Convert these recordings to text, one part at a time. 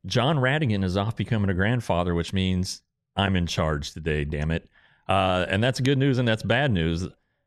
John Radigan is off becoming a grandfather, which means I'm in charge today, damn it. And that's good news and that's bad news.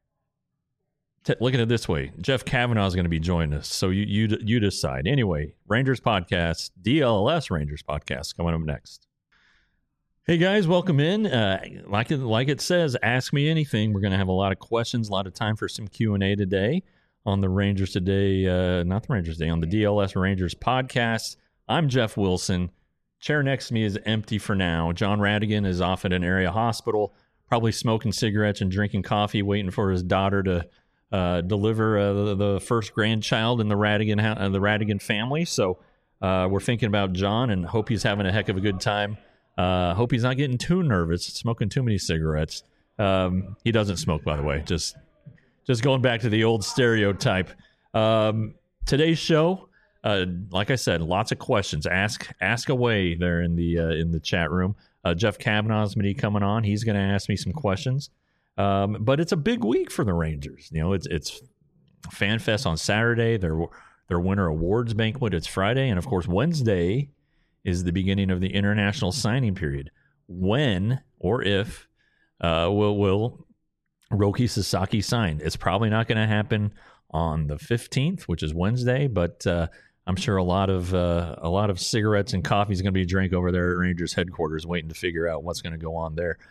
Look at it this way. Jeff Kavanaugh is going to be joining us. So you decide. Anyway, Rangers Podcast, DLS Rangers Podcast coming up next. Hey guys, welcome in. Like it says, ask me anything. We're going to have a lot of questions, a lot of time for some Q&A today on the Rangers Today, not the Rangers Today, on the DLS Rangers Podcast. I'm Jeff Wilson. Chair next to me is empty for now. John Radigan is off at an area hospital, probably smoking cigarettes and drinking coffee, waiting for his daughter to deliver the first grandchild in the Radigan family. So we're thinking about John and hope he's having a heck of a good time. Hope he's not getting too nervous, smoking too many cigarettes. He doesn't smoke, by the way. Just going back to the old stereotype. Today's show, like I said, lots of questions. Ask away there in the chat room. Jeff Kavanaugh is going to be coming on. He's going to ask me some questions. But it's a big week for the Rangers. You know, it's Fan Fest on Saturday. Their winter awards banquet. It's Friday, and of course Wednesday is the beginning of the international signing period. When or if will Roki Sasaki sign? It's probably not going to happen on the 15th, which is Wednesday, but I'm sure a lot of cigarettes and coffee is going to be drank over there at Rangers headquarters, waiting to figure out what's going to go on there.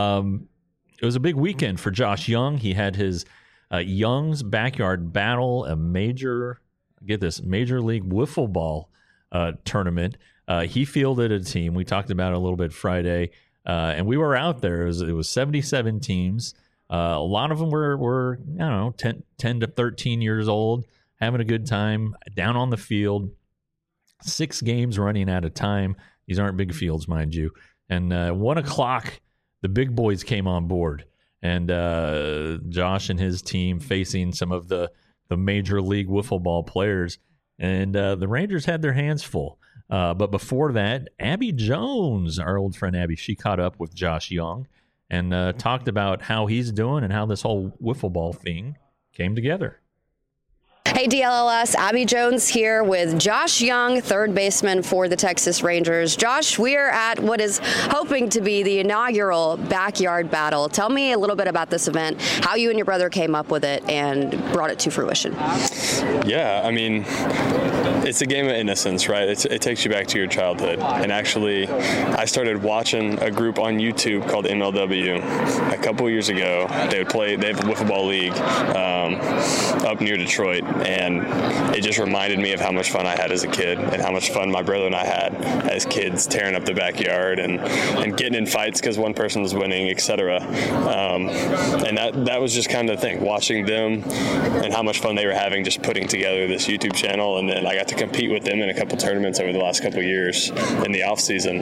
It was a big weekend for Josh Young. He had his Young's Backyard Battle, a major league wiffle ball tournament. He fielded a team. We talked about it a little bit Friday, and we were out there. It was 77 teams. A lot of them were 10 to 13 years old, having a good time down on the field. 6 games running at a time. These aren't big fields, mind you. And 1 o'clock, the big boys came on board. And Josh and his team facing some of the major league wiffle ball players. And the Rangers had their hands full. But before that, Abby Jones, our old friend Abby, she caught up with Josh Young and talked about how he's doing and how this whole wiffle ball thing came together. Hey DLLS, Abby Jones here with Josh Young, third baseman for the Texas Rangers. Josh, we are at what is hoping to be the inaugural Backyard Battle. Tell me a little bit about this event, how you and your brother came up with it and brought it to fruition. Yeah, I mean, it's a game of innocence, right? It takes you back to your childhood. And actually, I started watching a group on YouTube called MLW a couple years ago. They have a wiffle ball league up near Detroit. And it just reminded me of how much fun I had as a kid and how much fun my brother and I had as kids, tearing up the backyard and getting in fights because one person was winning, etc. And that was just kind of the thing, watching them and how much fun they were having just putting together this YouTube channel. And then I got to compete with them in a couple tournaments over the last couple of years in the off season.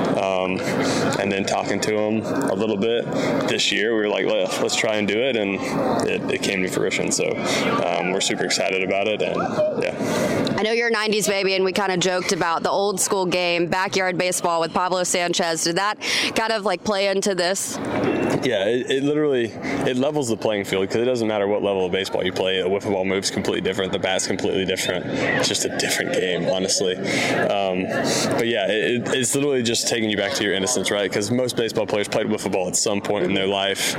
And then talking to them a little bit this year, we were like, let's try and do it. And it came to fruition. So we're super excited about it, and yeah. I know you're a 90s baby, and we kind of joked about the old school game, backyard baseball with Pablo Sanchez. Did that kind of like play into this? Yeah, it literally levels the playing field because it doesn't matter what level of baseball you play. A wiffle ball move's completely different. The bat's completely different. It's just a different game, honestly. But yeah, it's literally just taking you back to your innocence, right? Because most baseball players played wiffle ball at some point in their life,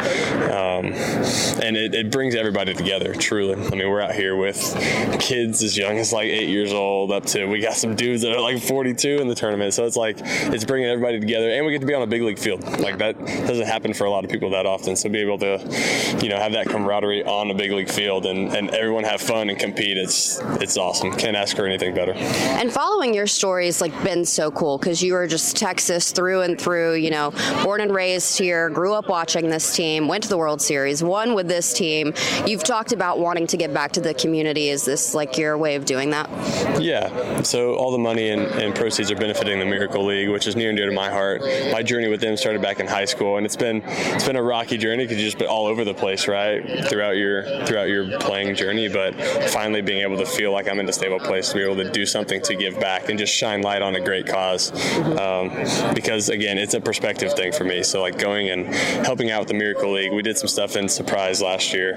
and it brings everybody together. Truly, I mean, we're out here with kids as young as like 8 years old up to we got some dudes that are like 42 in the tournament. So it's bringing everybody together, and we get to be on a big league field. Like that doesn't happen for a lot of people that often. So be able to, have that camaraderie on a big league field and everyone have fun and compete. It's awesome. Can't ask for anything better. And following your story's been so cool because you were just Texas through and through. Born and raised here, grew up watching this team, went to the World Series, won with this team. You've talked about wanting to get back to the community. Is this your way of doing that? Yeah. So all the money and proceeds are benefiting the Miracle League, which is near and dear to my heart. My journey with them started back in high school, and it's been it's been a rocky journey because you've just been all over the place, right, throughout your playing journey. But finally being able to feel like I'm in a stable place to be able to do something to give back and just shine light on a great cause. Because again, it's a perspective thing for me. So like going and helping out with the Miracle League, we did some stuff in Surprise last year.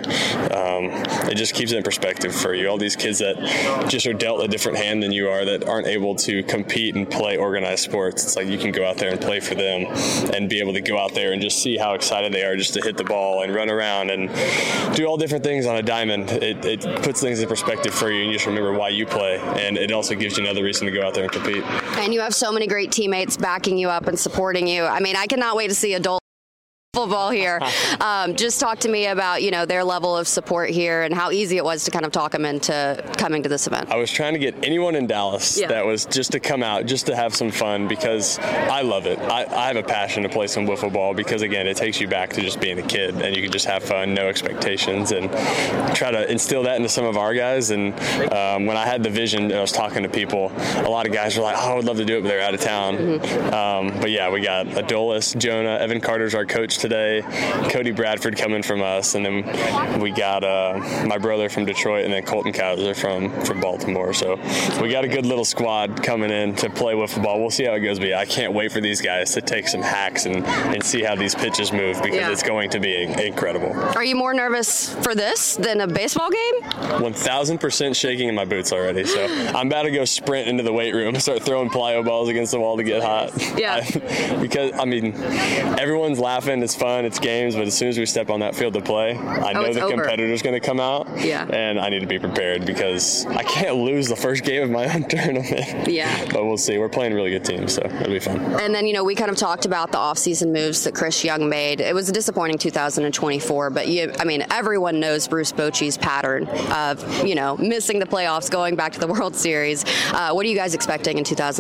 It just keeps it in perspective for you. All these kids that just are dealt a different hand than you are, that aren't able to compete and play organized sports. It's like you can go out there and play for them and be able to go out there and just see how excited they are just to hit the ball and run around and do all different things on a diamond. It puts things in perspective for you, and you just remember why you play, and it also gives you another reason to go out there and compete. And you have so many great teammates backing you up and supporting you. I mean, I cannot wait to see adult football here. Just talk to me about, their level of support here and how easy it was to kind of talk them into coming to this event. I was trying to get anyone in Dallas that was just to come out, just to have some fun, because I love it. I have a passion to play some wiffle ball because, again, it takes you back to just being a kid, and you can just have fun, no expectations, and try to instill that into some of our guys. And when I had the vision and I was talking to people, a lot of guys were like, oh, I would love to do it, but they're out of town. But yeah, we got Adolis, Jonah, Evan Carter's our coach today, Cody Bradford coming from us, and then we got my brother from Detroit, and then Colton Kaiser from Baltimore. So we got a good little squad coming in to play wiffle ball. We'll see how it goes, but I can't wait for these guys to take some hacks and see how these pitches move, because it's going to be incredible. Are you more nervous for this than a baseball game? 1,000% shaking in my boots already. So I'm about to go sprint into the weight room and start throwing plyo balls against the wall to get hot. Yeah. Because, everyone's laughing. It's fun. It's games. But as soon as we step on that field to play, I know the competitor's going to come out. Yeah. And I need to be prepared because I can't lose the first game of my own tournament. Yeah. But we'll see. We're playing a really good team, so it'll be fun. And then, we kind of talked about the offseason moves that Chris Young made. It was a disappointing 2024, but everyone knows Bruce Bochy's pattern of, missing the playoffs, going back to the World Series. What are you guys expecting in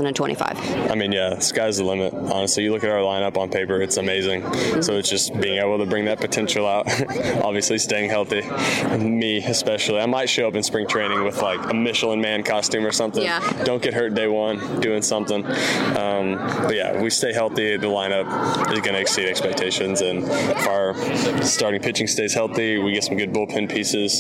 2025? Sky's the limit. Honestly, you look at our lineup on paper, it's amazing. So it's just being able to bring that potential out. Obviously, staying healthy. Me, especially. I might show up in spring training with like a Michelin Man costume or something. Yeah. Don't get hurt day one doing something. But yeah, we stay healthy. The lineup is going to exceed expectations. And if our starting pitching stays healthy, we get some good bullpen pieces.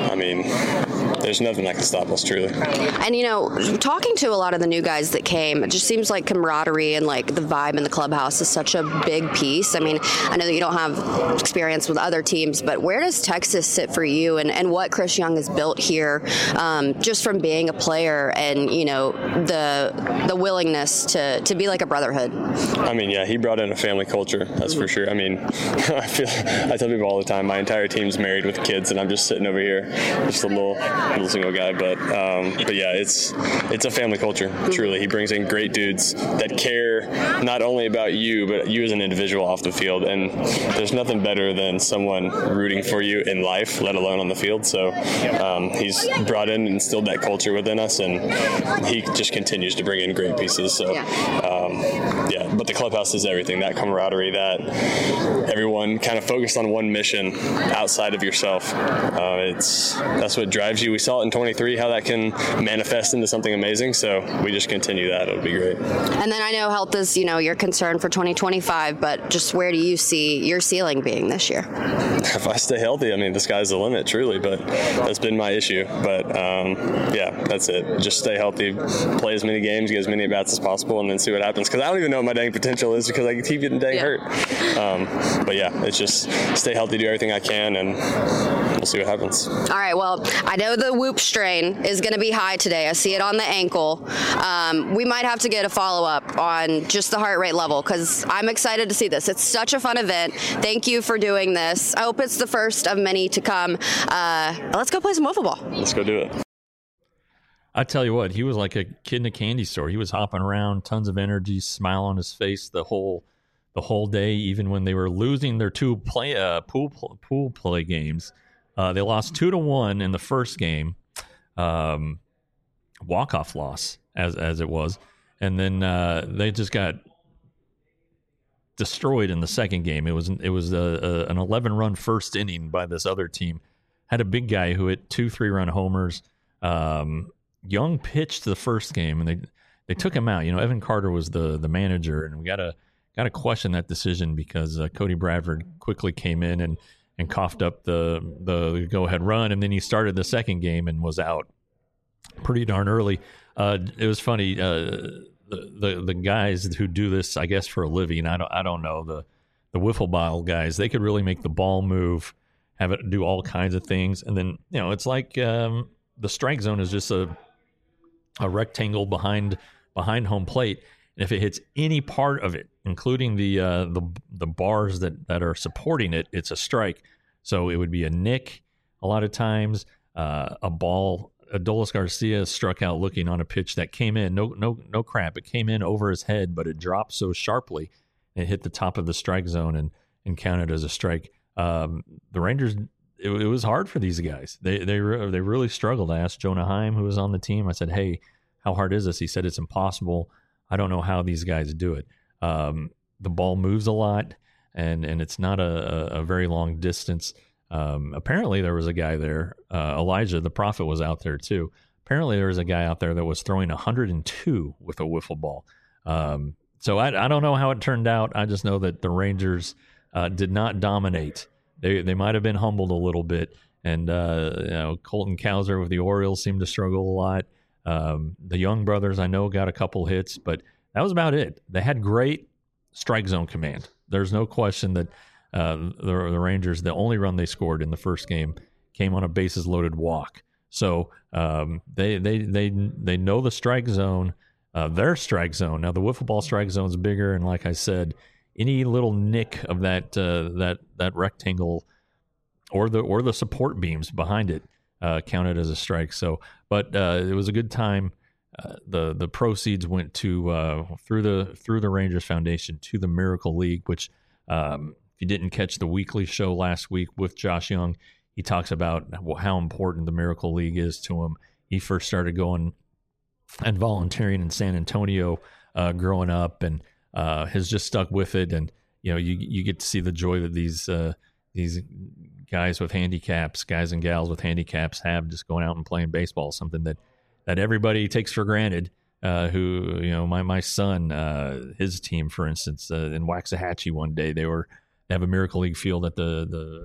There's nothing that can stop us, truly. And, talking to a lot of the new guys that came, it just seems like camaraderie and like the vibe in the clubhouse is such a big piece. I know that you don't have experience with other teams, but where does Texas sit for you and what Chris Young has built here, just from being a player and, the willingness to be like a brotherhood? He brought in a family culture, that's for sure. I tell people all the time, my entire team's married with kids, and I'm just sitting over here, just a little single guy. But yeah, it's a family culture, truly. He brings in great dudes that care not only about you, but you as an individual off the field. And there's nothing better than someone rooting for you in life, let alone on the field. So he's brought in and instilled that culture within us, and he just continues to bring in great pieces. So but the clubhouse is everything. That camaraderie, that everyone kind of focused on one mission outside of yourself. That's what drives you. We saw it in 23, how that can manifest into something amazing. So we just continue that. It'll be great. And then I know health is, your concern for 2025, but just where do you see your ceiling being this year? If I stay healthy, the sky's the limit, truly. But that's been my issue. But that's it. Just stay healthy, play as many games, get as many at-bats as possible, and then see what happens. Because I don't even know what my dang potential is because I keep getting hurt. But yeah, it's just stay healthy, do everything I can, and we'll see what happens. All right. Well, I know the whoop strain is going to be high today. I see it on the ankle. We might have to get a follow-up on just the heart rate level because I'm excited to see this. It's such a fun event. Thank you for doing this. I hope it's the first of many to come. Let's go play some wiffle ball. Let's go do it. I tell you what, he was like a kid in a candy store. He was hopping around, tons of energy, smile on his face the whole day, even when they were losing their two pool play games. They lost 2-1 in the first game, walk-off loss as it was, and then they just got destroyed in the second game. It was an 11-run first inning by this other team. Had a big guy who hit 2 3-run homers. Young pitched the first game, and they took him out. Evan Carter was the manager, and we got to got to question that decision because Cody Bradford quickly came in and coughed up the go-ahead run, and then he started the second game and was out pretty darn early. It was funny. The guys who do this, I guess, for a living, I don't know, the wiffle ball guys, they could really make the ball move, have it do all kinds of things, and then it's like the strike zone is just a rectangle behind home plate. And if it hits any part of it, including the bars that are supporting it, it's a strike. So it would be a nick a lot of times. A ball. Adolis Garcia struck out looking on a pitch that came in. No crap. It came in over his head, but it dropped so sharply it hit the top of the strike zone and counted as a strike. The Rangers. It was hard for these guys. They really struggled. I asked Jonah Heim, who was on the team. I said, "Hey, how hard is this?" He said, "It's impossible. I don't know how these guys do it." The ball moves a lot, and it's not a very long distance. Apparently, there was a guy there. Elijah, the Prophet, was out there too. Apparently, there was a guy out there that was throwing 102 with a wiffle ball. So I don't know how it turned out. I just know that the Rangers did not dominate. They might have been humbled a little bit, and Colton Cowser with the Orioles seemed to struggle a lot. The Young brothers, I know, got a couple hits, but that was about it. They had great strike zone command. There's no question that the Rangers, the only run they scored in the first game came on a bases loaded walk. So they know the strike zone, their strike zone. Now the wiffle ball strike zone is bigger, and like I said, any little nick of that rectangle or the support beams behind it counted as a strike. So, but it was a good time. The proceeds went to through the Rangers Foundation to the Miracle League, which if you didn't catch the weekly show last week with Josh Young, he talks about how important the Miracle League is to him. He first started going and volunteering in San Antonio growing up, and has just stuck with it. And you get to see the joy that these guys with handicaps, guys and gals with handicaps, have just going out and playing baseball, something that everybody takes for granted. My son, his team, for instance, in Waxahachie one day, they have a Miracle League field at the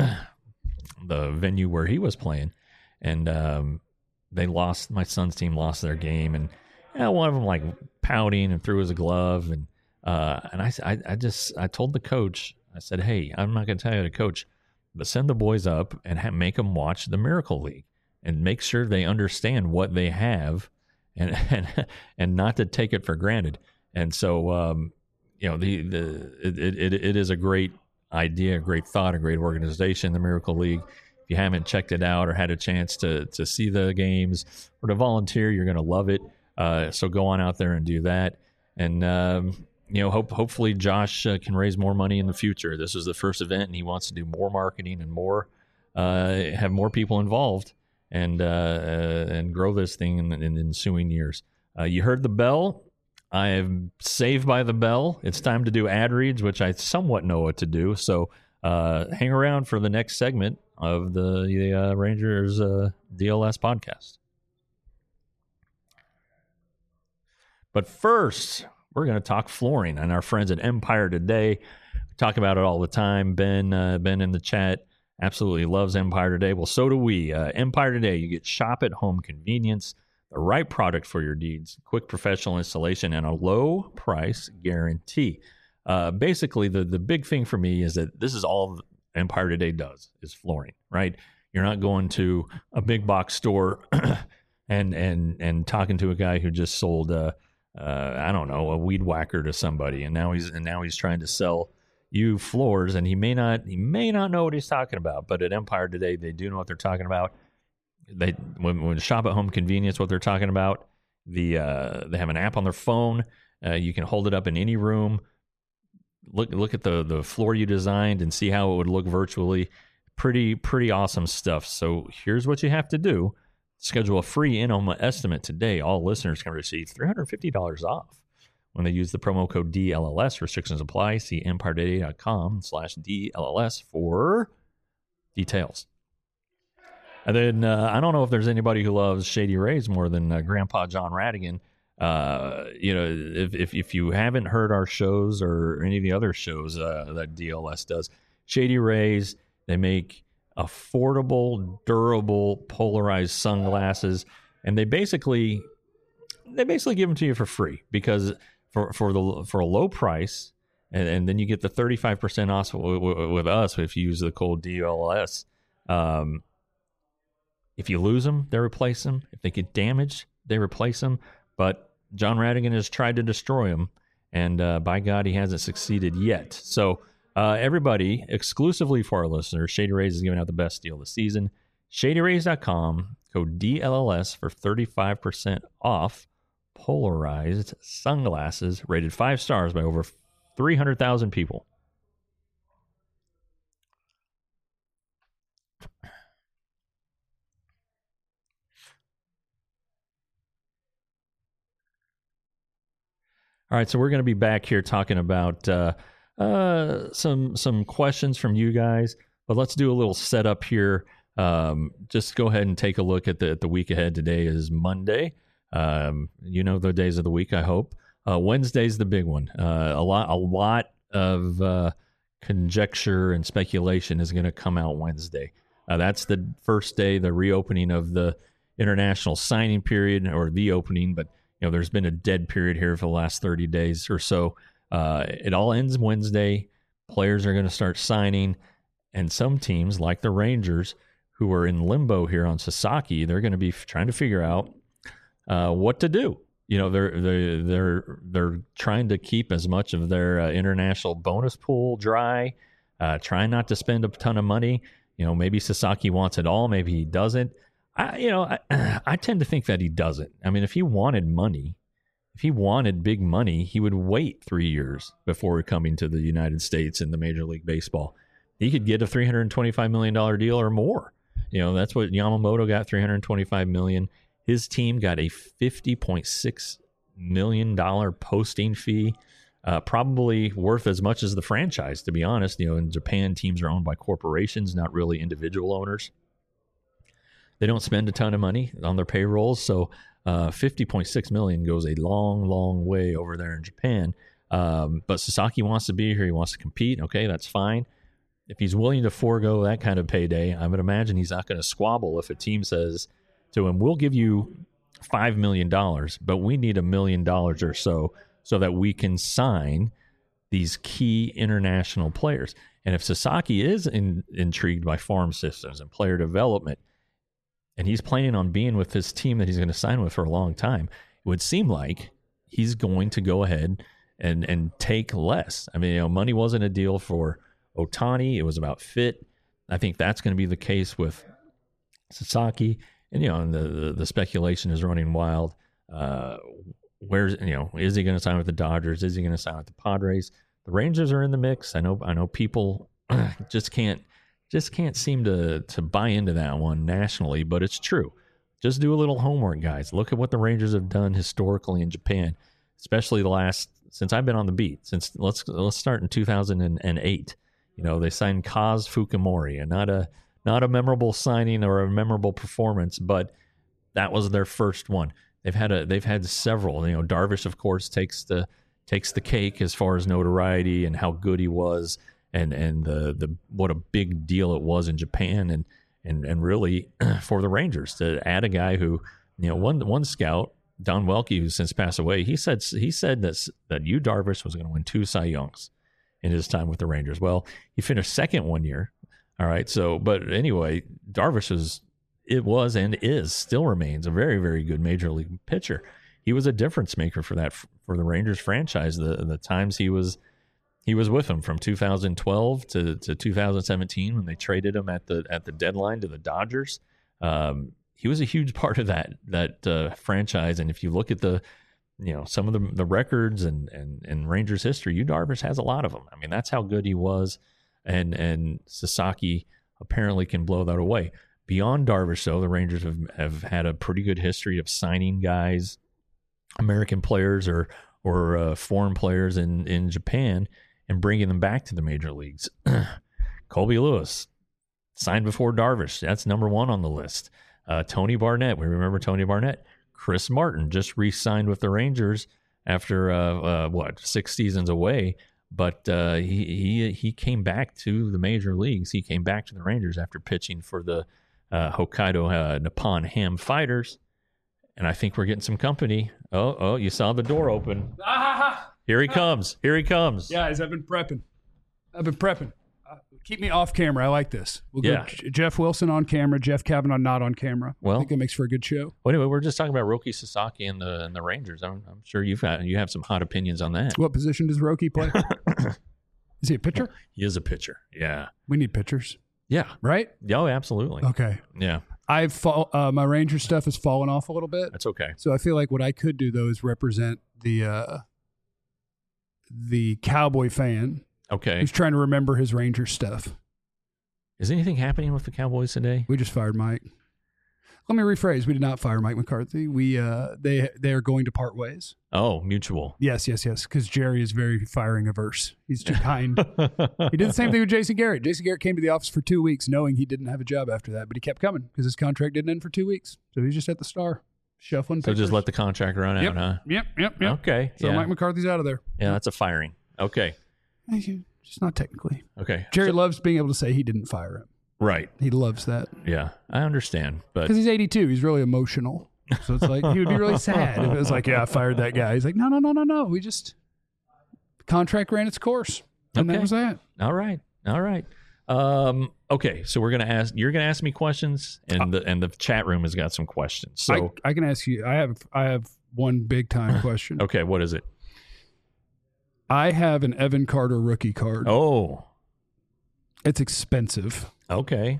venue where he was playing, and my son's team lost their game, and one of them like pouting and threw his glove, and I told the coach, I said, "Hey, I'm not going to tell you to coach, but send the boys up and make them watch the Miracle League and make sure they understand what they have, and not to take it for granted." And so, it is a great idea, a great thought, a great organization, the Miracle League. If you haven't checked it out or had a chance to see the games or to volunteer, you're going to love it. So go on out there and do that. And, hopefully Josh can raise more money in the future. This is the first event, and he wants to do more marketing and more, have more people involved, and grow this thing in ensuing years. You heard the bell. I am saved by the bell. It's time to do ad reads, which I somewhat know what to do. So hang around for the next segment of the Rangers DLS podcast. But first, we're going to talk flooring, and our friends at Empire Today. We talk about it all the time. Ben in the chat absolutely loves Empire Today. Well, so do we. Empire Today, you get shop at home convenience, the right product for your needs, quick professional installation, and a low price guarantee. Basically, the big thing for me is that this is all Empire Today does, is flooring, right? You're not going to a big box store and talking to a guy who just sold a weed whacker to somebody, and now he's trying to sell you floors, and he may not know what he's talking about. But at Empire Today, they do know what they're talking about. When shop at home convenience, what they're talking about, they have an app on their phone. You can hold it up in any room. Look at the floor you designed and see how it would look virtually. Pretty awesome stuff. So here's what you have to do. Schedule a free in-home estimate today. All listeners can receive $350 off when they use the promo code DLLS. Restrictions apply. See EmpireToday.com/DLLS for details. And then I don't know if there's anybody who loves Shady Rays more than Grandpa John Radigan. If you haven't heard our shows or any of the other shows that DLS does, Shady Rays, they make affordable, durable, polarized sunglasses, and they basically give them to you for free, because for a low price, and then you get the 35% off with us if you use the code DLS. If you lose them, they replace them. If they get damaged, they replace them. But John Radigan has tried to destroy them, and by God, he hasn't succeeded yet. So everybody, exclusively for our listeners, Shady Rays is giving out the best deal of the season. ShadyRays.com, code DLLS for 35% off polarized sunglasses rated 5 stars by over 300,000 people. All right, so we're going to be back here talking about some questions from you guys, but let's do a little setup here. Just go ahead and take a look at the week ahead. Today is Monday. The days of the week, I hope. Wednesday's the big one. A lot of conjecture and speculation is going to come out Wednesday. That's the first day, the reopening of the international signing period, or the opening, but there's been a dead period here for the last 30 days or so. It all ends Wednesday. Players are going to start signing, and some teams, like the Rangers, who are in limbo here on Sasaki, they're going to be trying to figure out what to do. They're trying to keep as much of their international bonus pool dry, trying not to spend a ton of money. Maybe Sasaki wants it all, maybe he doesn't. I tend to think that he doesn't. I mean, if he wanted money, if he wanted big money, he would wait 3 years before coming to the United States in the Major League Baseball. He could get a $325 million deal or more. That's what Yamamoto got, $325 million. His team got a $50.6 million posting fee, probably worth as much as the franchise, to be honest. In Japan, teams are owned by corporations, not really individual owners. They don't spend a ton of money on their payrolls, so $50.6 million goes a long, long way over there in Japan. But Sasaki wants to be here. He wants to compete. Okay, that's fine. If he's willing to forego that kind of payday, I would imagine he's not going to squabble if a team says to him, we'll give you $5 million, but we need $1 million or so that we can sign these key international players. And if Sasaki is intrigued by farm systems and player development, and he's planning on being with this team that he's going to sign with for a long time, it would seem like he's going to go ahead and take less. I mean, money wasn't a deal for Ohtani. It was about fit. I think that's going to be the case with Sasaki. And, the speculation is running wild. Is he going to sign with the Dodgers? Is he going to sign with the Padres? The Rangers are in the mix. I know people just can't seem to buy into that one nationally, but it's true. Just do a little homework, guys. Look at what the Rangers have done historically in Japan, especially since I've been on the beat. Let's start in 2008. They signed Kaz Fukumori, and not a memorable signing or a memorable performance, but that was their first one. They've had several. Darvish, of course, takes the cake as far as notoriety and how good he was. And the what a big deal it was in Japan, and really for the Rangers to add a guy who, one scout, Don Welke, who's since passed away, he said that Yu Darvish was going to win 2 Cy Youngs in his time with the Rangers. Well, he finished second one year. All right, but anyway, Darvish still remains a very, very good major league pitcher. He was a difference maker for the Rangers franchise. The times he was with them from 2012 to 2017 when they traded him at the deadline to the Dodgers. He was a huge part of that franchise. And if you look at some of the records and Rangers history, Yu Darvish has a lot of them. I mean, that's how good he was. And Sasaki apparently can blow that away. Beyond Darvish, though, the Rangers have had a pretty good history of signing guys, American players or foreign players in Japan, and bringing them back to the major leagues. Colby Lewis signed before Darvish. That's number 1 on the list. Tony Barnett. We remember Tony Barnett. Chris Martin just re-signed with the Rangers after 6 seasons away, but he came back to the major leagues. He came back to the Rangers after pitching for the Hokkaido Nippon Ham Fighters, and I think we're getting some company. Oh, you saw the door open. Here he comes. Here he comes. Guys, I've been prepping. Keep me off camera. I like this. We'll go Jeff Wilson on camera, Jeff Kavanaugh not on camera. Well, I think that makes for a good show. Well, anyway, we're just talking about Roki Sasaki and the Rangers. I'm sure you have some hot opinions on that. What position does Roki play? Is he a pitcher? He is a pitcher. Yeah. We need pitchers. Yeah. Right? Oh, absolutely. Okay. Yeah. My Ranger stuff has fallen off a little bit. That's okay. So I feel like what I could do though is represent the Cowboy fan. Okay. Who's trying to remember his Ranger stuff. Is anything happening with the Cowboys today? We just fired Mike. Let me rephrase. We did not fire Mike McCarthy. They are going to part ways. Oh, mutual. Yes. Because Jerry is very firing averse. He's too kind. He did the same thing with Jason Garrett. Jason Garrett came to the office for 2 weeks knowing he didn't have a job after that, but he kept coming because his contract didn't end for 2 weeks. So he's just at the Star, shuffling So papers. just let the contract run out, huh? Yep. Okay. So Mike McCarthy's out of there. Yeah, that's a firing. Okay. Just not technically. Okay. Jerry loves being able to say he didn't fire him. Right. He loves that. Yeah, I understand. But because he's 82, he's really emotional. So it's like he would be really sad if it was like, I fired that guy. He's like, no. We just contract ran its course, and that was that. All right. Okay, so you're gonna ask me questions, and the chat room has got some questions. So I can ask you. I have one big time question. Okay, what is it? I have an Evan Carter rookie card. Oh, it's expensive. Okay.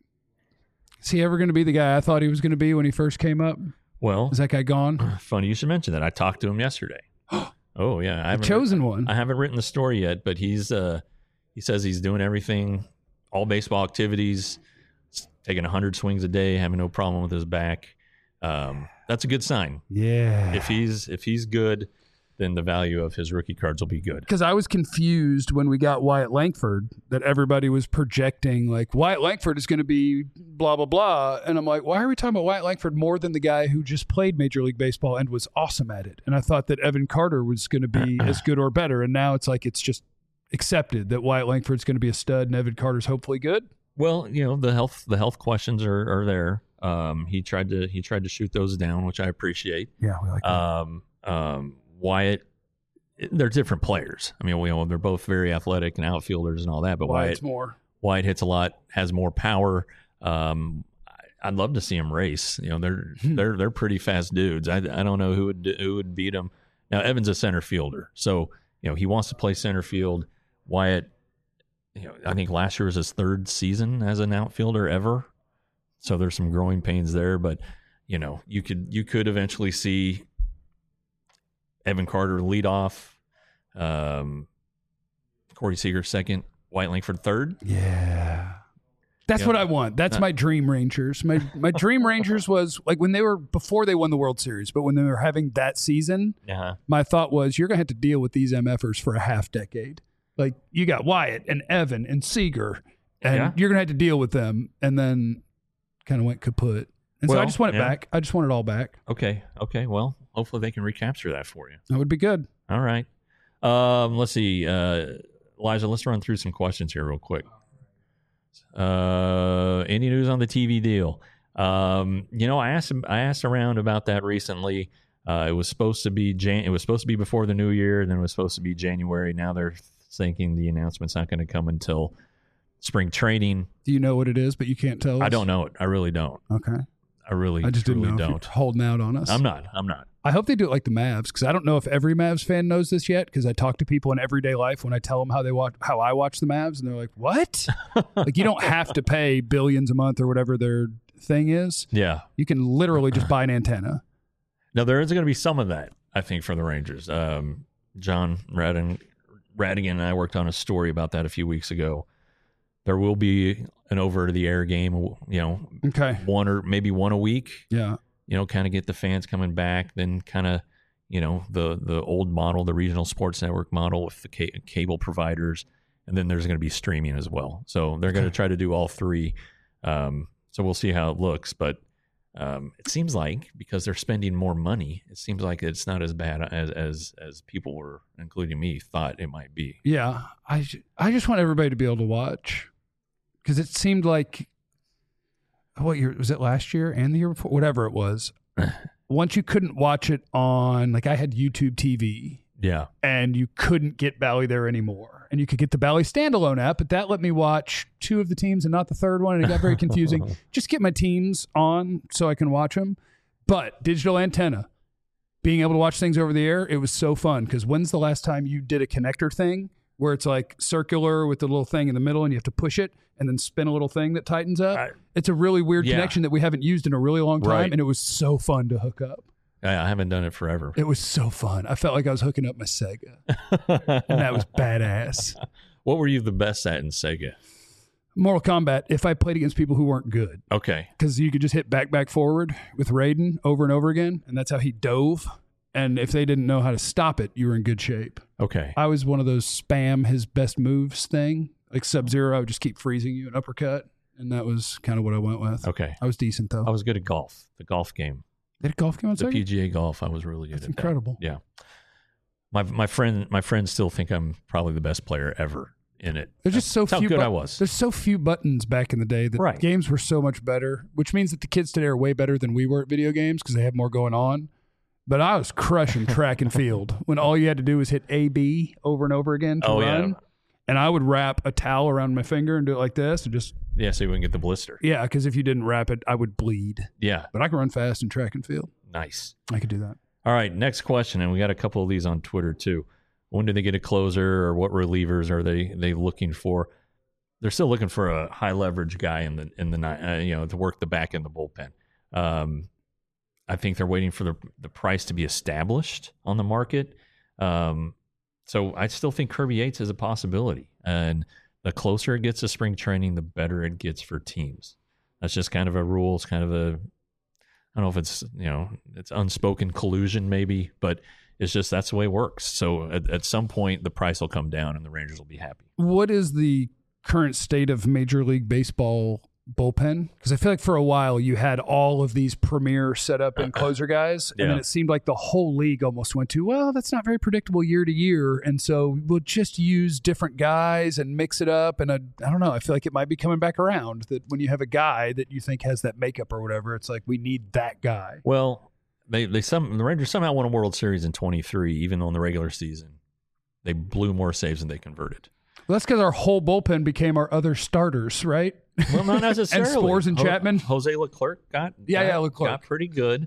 Is he ever going to be the guy I thought he was going to be when he first came up? Well, is that guy gone? Funny you should mention that. I talked to him yesterday. Oh yeah, I haven't one. I haven't written the story yet, but he says he's doing everything, all baseball activities, taking 100 swings a day, having no problem with his back. That's a good sign. Yeah. If he's good, then the value of his rookie cards will be good. Because I was confused when we got Wyatt Langford that everybody was projecting like Wyatt Langford is going to be blah, blah, blah. And I'm like, why are we talking about Wyatt Langford more than the guy who just played Major League Baseball and was awesome at it? And I thought that Evan Carter was going to be as good or better. And now it's like it's just accepted that Wyatt Langford's going to be a stud and Evan Carter's hopefully good. Well, the health questions are there. He tried to shoot those down, which I appreciate. Yeah, we like that. Wyatt, they're different players. I mean, they're both very athletic and outfielders and all that, but Wyatt hits a lot, has more power. I'd love to see him race. They're pretty fast dudes. I don't know who would beat him. Now Evan's a center fielder, so he wants to play center field. Wyatt, I think last year was his 3rd season as an outfielder ever, so there's some growing pains there. But you could eventually see Evan Carter lead off, Corey Seager 2nd, Wyatt Langford 3rd. Yeah. That's what I want. That's my dream Rangers. My dream Rangers was like when they were before they won the World Series, but when they were having that season, my thought was you're going to have to deal with these MFers for a half decade. Like you got Wyatt and Evan and Seager, and you're going to have to deal with them, and then kind of went kaput. And so I just want it back. I just want it all back. Okay. Well, hopefully they can recapture that for you. That would be good. All right. Let's see. Elijah, let's run through some questions here real quick. Any news on the TV deal? I asked around about that recently. It was supposed to be before the new year, then it was supposed to be January. Now they're thinking the announcement's not going to come until spring training. Do you know what it is, but you can't tell us? I don't know it. I really don't. Okay. I just didn't know don't. If you're holding out on us. I'm not. I hope they do it like the Mavs, because I don't know if every Mavs fan knows this yet, because I talk to people in everyday life when I tell them how I watch the Mavs, and they're like, what? Like, you don't have to pay billions a month or whatever their thing is. Yeah. You can literally just buy an antenna. Now, there is going to be some of that, I think, for the Rangers. John Radigan and I worked on a story about that a few weeks ago. There will be an over-the-air game, one or maybe one a week. Yeah. Kind of get the fans coming back, then kind of, the old model, the regional sports network model with the cable providers, and then there's going to be streaming as well. So they're going to try to do all three. So we'll see how it looks, but It seems like because they're spending more money, it seems like it's not as bad as people were, including me, thought it might be. Yeah, I just want everybody to be able to watch, because it seemed like, what year was it? Last year and the year before, whatever it was. Once you couldn't watch it on, like I had YouTube TV. Yeah. And you couldn't get Bally there anymore. And you could get the Bally standalone app, but that let me watch 2 of the teams and not the third one. And it got very confusing. Just get my teams on so I can watch them. But digital antenna, being able to watch things over the air, it was so fun. Because when's the last time you did a connector thing where it's like circular with the little thing in the middle and you have to push it and then spin a little thing that tightens up? It's a really weird connection that we haven't used in a really long time. Right. And it was so fun to hook up. I haven't done it forever. It was so fun. I felt like I was hooking up my Sega. And that was badass. What were you the best at in Sega? Mortal Kombat, if I played against people who weren't good. Okay. Because you could just hit back, forward with Raiden over and over again. And that's how he dove. And if they didn't know how to stop it, you were in good shape. Okay. I was one of those spam his best moves thing. Like Sub-Zero, I would just keep freezing you an uppercut. And that was kind of what I went with. Okay. I was decent, though. I was good at golf, the golf game. They had a golf game on the Sega? PGA golf. I was really good at that. That's incredible. Yeah. My friends still think I'm probably the best player ever in it. There's just so few. How good I was. There's so few buttons back in the day that games were so much better, which means that the kids today are way better than we were at video games because they have more going on. But I was crushing track and field when all you had to do was hit A-B over and over again to run. Yeah. And I would wrap a towel around my finger and do it like this and just... Yeah, so you wouldn't get the blister. Yeah, because if you didn't wrap it, I would bleed. Yeah. But I could run fast in track and field. Nice. I could do that. All right, next question, and we got a couple of these on Twitter too. When do they get a closer, or what relievers are they looking for? They're still looking for a high leverage guy in the to work the back in the bullpen. I think they're waiting for the price to be established on the market. So I still think Kirby Yates is a possibility. And the closer it gets to spring training, the better it gets for teams. That's just kind of a rule. It's kind of I don't know if it's, it's unspoken collusion maybe, but it's just that's the way it works. So at some point, the price will come down and the Rangers will be happy. What is the current state of Major League Baseball bullpen? Because I feel like for a while you had all of these premier setup and closer guys, and then it seemed like the whole league almost went to, well, that's not very predictable year to year, and so we'll just use different guys and mix it up. And I don't know, I feel like it might be coming back around that when you have a guy that you think has that makeup or whatever, it's like we need that guy. Well, the Rangers somehow won a World Series in 23, even though in the regular season they blew more saves than they converted. Well, that's because our whole bullpen became our other starters, right? Well, not necessarily. And Spores and Chapman. Jose Leclerc got pretty good.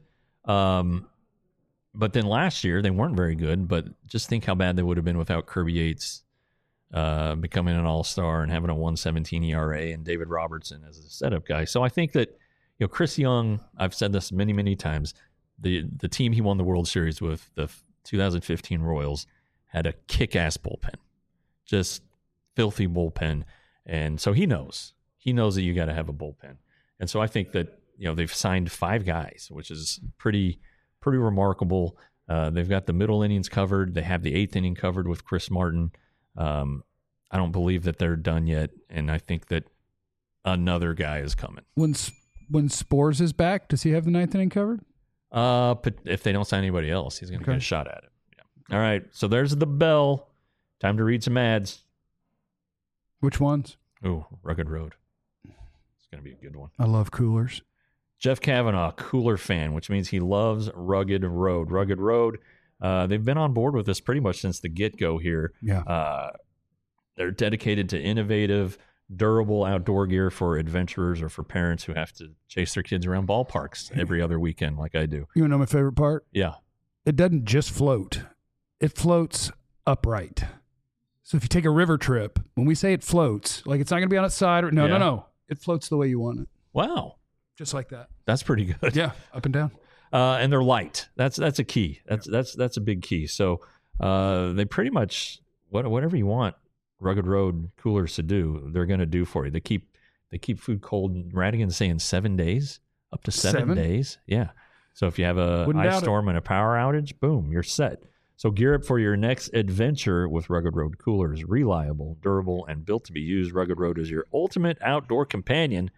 But then last year they weren't very good. But just think how bad they would have been without Kirby Yates becoming an all-star and having a 1.17 ERA and David Robertson as a setup guy. So I think that Chris Young, I've said this many, many times, the team he won the World Series with, the 2015 Royals, had a kick-ass bullpen. Just filthy bullpen. And so he knows that you got to have a bullpen. And so I think that, they've signed 5 guys, which is pretty remarkable. They've got the middle innings covered. They have the 8th inning covered with Chris Martin. I don't believe that they're done yet. And I think that another guy is coming. When Spores is back, does he have the 9th inning covered? But if they don't sign anybody else, he's going to get a shot at it. Yeah. All right. So there's the bell. Time to read some ads. Which ones? Ooh, Rugged Road. It's going to be a good one. I love coolers. Jeff Kavanaugh, cooler fan, which means he loves Rugged Road. Rugged Road, they've been on board with this pretty much since the get-go here. Yeah. They're dedicated to innovative, durable outdoor gear for adventurers or for parents who have to chase their kids around ballparks every other weekend like I do. You want to know my favorite part? Yeah. It doesn't just float. It floats upright. So if you take a river trip, when we say it floats, like it's not going to be on its side. No. It floats the way you want it. Wow. Just like that. That's pretty good. Yeah, up and down. And they're light. That's a key. That's a big key. So they pretty much, whatever you want Rugged Road coolers to do, they're going to do for you. They keep food cold. Radigan's saying 7 days, up to 7 days. Yeah. So if you have a ice storm and a power outage, boom, you're set. So gear up for your next adventure with Rugged Road coolers. Reliable, durable, and built to be used. Rugged Road is your ultimate outdoor companion.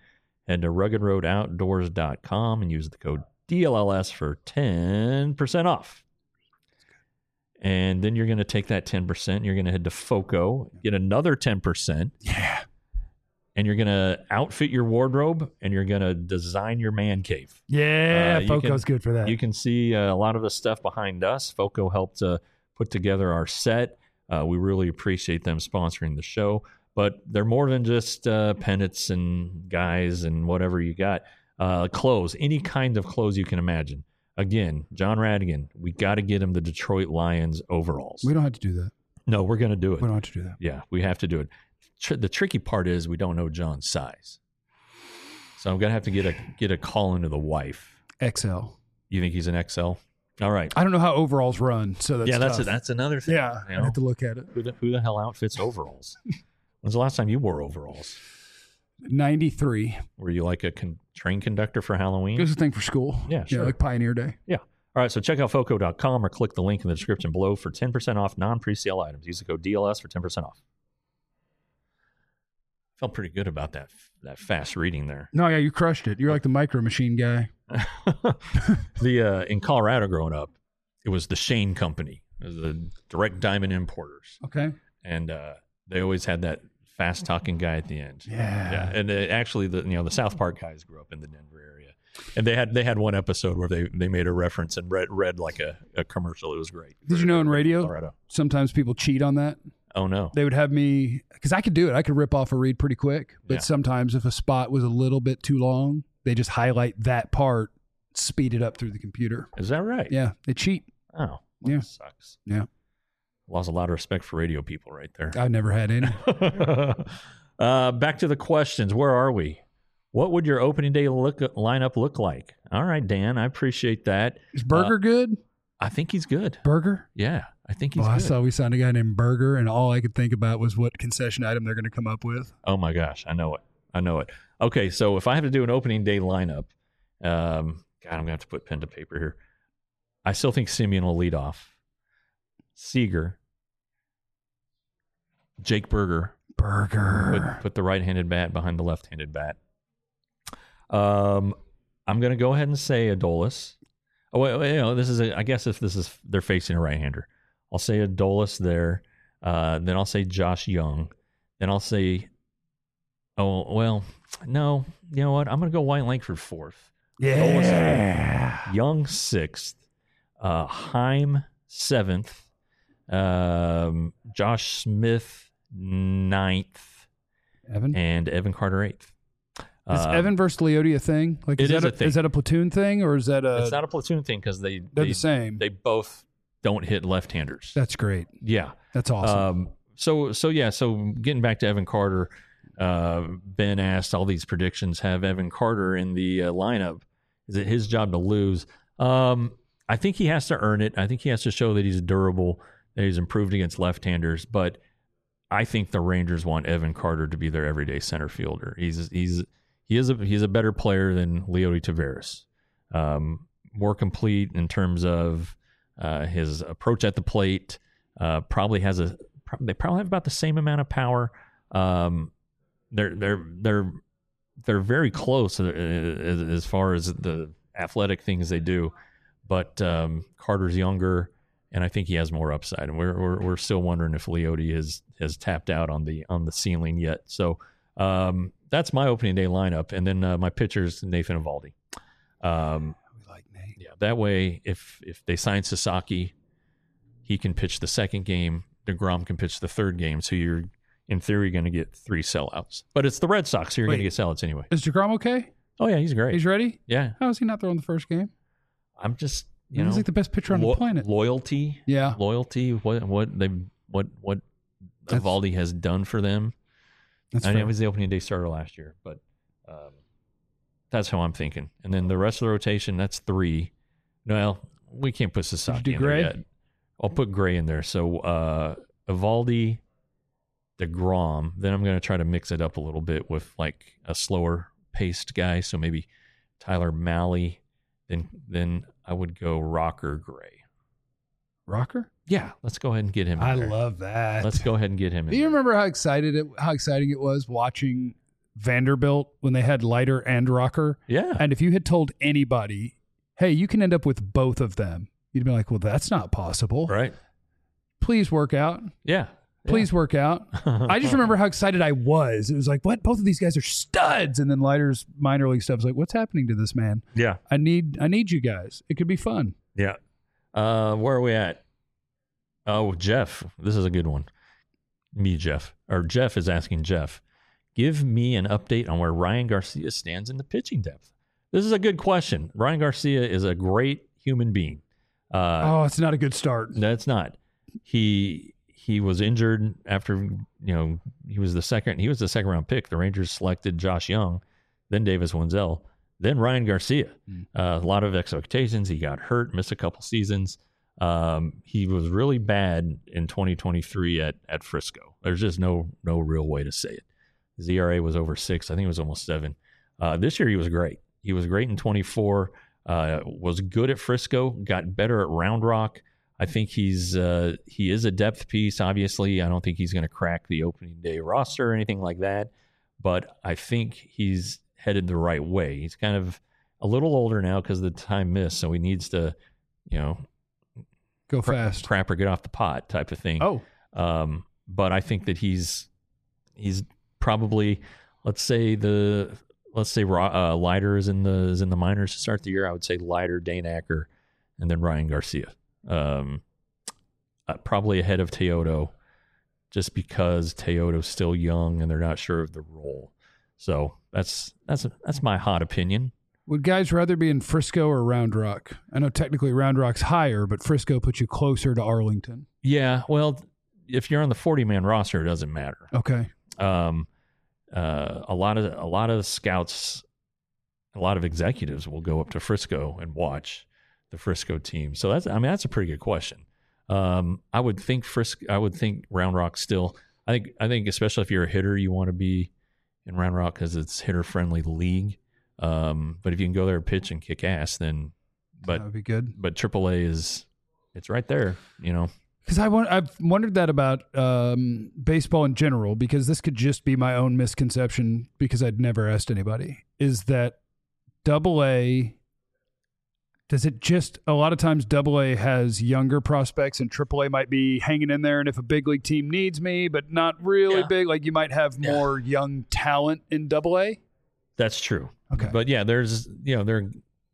head to ruggedroadoutdoors.com and use the code DLLS for 10% off. And then you're going to take that 10%. You're going to head to FOCO, get another 10%. Yeah. And you're going to outfit your wardrobe, and you're going to design your man cave. Yeah, FOCO's good for that. You can see a lot of the stuff behind us. FOCO helped put together our set. We really appreciate them sponsoring the show. But they're more than just pennants and guys and whatever you got. Clothes, any kind of clothes you can imagine. Again, John Radigan, we got to get him the Detroit Lions overalls. We don't have to do that. No, we're going to do it. We don't have to do that. Yeah, we have to do it. The tricky part is we don't know John's size. So I'm going to have to get a call into the wife. XL. You think he's an XL? All right. I don't know how overalls run, so that's tough. That's another thing. Yeah, I have to look at it. Who the hell outfits overalls? When's the last time you wore overalls? 93. Were you like a train conductor for Halloween? It was a thing for school. Yeah, sure. Yeah, like Pioneer Day. Yeah. All right, so check out FOCO.com or click the link in the description below for 10% off non-pre-sale items. Use the code DLS for 10% off. Felt pretty good about that fast reading there. No, yeah, you crushed it. You're like the Micro Machine guy. In Colorado growing up, it was the Shane Company. It was the direct diamond importers. Okay. And they always had that fast talking guy at the end. Yeah. And actually the South Park guys grew up in the Denver area. And they had one episode where they made a reference and read like a commercial. It was great. Did you know in radio, Colorado. Sometimes people cheat on that? Oh, no. They would have me, because I could do it. I could rip off a read pretty quick. But Yeah. sometimes if a spot was a little bit too long, they just highlight that part, speed it up through the computer. Is that right? Yeah, they cheat. Oh, well, Yeah. That sucks. Yeah. Lost a lot of respect for radio people right there. I've never had any. Back to the questions. Where are we? What would your opening day lineup look like? All right, Dan, I appreciate that. Is Burger good? I think he's good. Burger? Yeah, I think he's I good. saw we signed a guy named Burger, and all I could think about was what concession item they're going to come up with. Oh, my gosh. I know it. Okay, so if I have to do an opening day lineup, God, I'm going to have to put pen to paper here. I still think Simeon will lead off. Seager, Jake Burger. Put the right-handed bat behind the left-handed bat. I'm going to go ahead and say Adolis. Oh, wait, this is I guess if they're facing a right-hander, I'll say Adolis there. Then I'll say Josh Young. Then I'll say, no, you know what? I'm going to go White Langford fourth. Yeah. Adolis, Young sixth. Heim seventh. Josh Smith ninth. And Evan Carter eighth. Is Evan versus Leote a thing? Like, it is a thing. Is that a platoon thing, or is that a? It's not a platoon thing because they're the same. They both don't hit left-handers. That's great. Yeah, that's awesome. So getting back to Evan Carter, Ben asked all these predictions. Have Evan Carter in the lineup? Is it his job to lose? I think he has to earn it. I think he has to show that he's durable, that he's improved against left-handers. But I think the Rangers want Evan Carter to be their everyday center fielder. He's a better player than Leote Taveras. More complete in terms of his approach at the plate. They probably have about the same amount of power. They're very close as far as the athletic things they do, but Carter's younger, and I think he has more upside. And we're still wondering if Leote has tapped out on the ceiling yet. So that's my opening day lineup, and then my pitcher's Nathan Eovaldi. We like Nate. Yeah, that way if they sign Sasaki, he can pitch the second game. DeGrom can pitch the third game. So you're in theory going to get 3 sellouts. But it's the Red Sox, so you're going to get sellouts anyway. Is DeGrom okay? Oh yeah, he's great. He's ready? Yeah. How is he not throwing the first game? I'm just he's like the best pitcher on the planet. Loyalty. Yeah. Loyalty. What Eovaldi has done for them. I know he was the opening day starter last year, but that's how I'm thinking. And then the rest of the rotation, that's 3. Well, we can't put Sasaki in there yet. I'll put Gray in there. So Eovaldi, DeGrom. Then I'm going to try to mix it up a little bit with like a slower paced guy. So maybe Tyler Mahle. Then I would go Rocker, Gray. Rocker? Yeah, let's go ahead and get him. I love that. Let's go ahead and get him. Do you remember how exciting it was watching Vanderbilt when they had Leiter and Rocker. Yeah. And if you had told anybody, hey, you can end up with both of them, you'd be like, well, that's not possible. Right. Please work out. Yeah. Please work out. I just remember how excited I was. It was like, what? Both of these guys are studs. And then Leiter's minor league stuff was like, what's happening to this man? Yeah. I need you guys. It could be fun. Yeah. Where are we at? Oh, Jeff. This is a good one. Jeff is asking Jeff, give me an update on where Ryan Garcia stands in the pitching depth. This is a good question. Ryan Garcia is a great human being. It's not a good start. No, it's not. He was injured after, he was the second round pick. The Rangers selected Josh Young, then Davis Wenzel, then Ryan Garcia. A lot of expectations. He got hurt, missed a couple seasons. He was really bad in 2023 at Frisco. There's just no real way to say it. His ERA was over 6. I think it was almost 7. This year he was great. He was great in 24. Was good at Frisco. Got better at Round Rock. I think he is a depth piece. Obviously, I don't think he's going to crack the opening day roster or anything like that. But I think he's headed the right way. He's kind of a little older now because of the time missed, so he needs to, go fast, crap or get off the pot type of thing. Oh, but I think that he's probably, let's say Leiter is in the minors to start the year. I would say Leiter, Dane Acker, and then Ryan Garcia. Probably ahead of Teodo, just because Teodo's still young and they're not sure of the role. So that's my hot opinion. Would guys rather be in Frisco or Round Rock? I know technically Round Rock's higher, but Frisco puts you closer to Arlington. Yeah, well, if you're on the 40-man roster, it doesn't matter. Okay. A lot of scouts, a lot of executives will go up to Frisco and watch the Frisco team. So that's a pretty good question. I would think Round Rock still. I think especially if you're a hitter, you want to be in Round Rock because it's hitter-friendly league. But if you can go there and pitch and kick ass, then that would be good. But AAA it's right there, Because I've wondered that about baseball in general, because this could just be my own misconception because I'd never asked anybody, is that AA, does it just, a lot of times AA has younger prospects and AAA might be hanging in there, and if a big league team needs me, but not really big, like you might have more young talent in AA? That's true. Okay. But yeah, there's, there are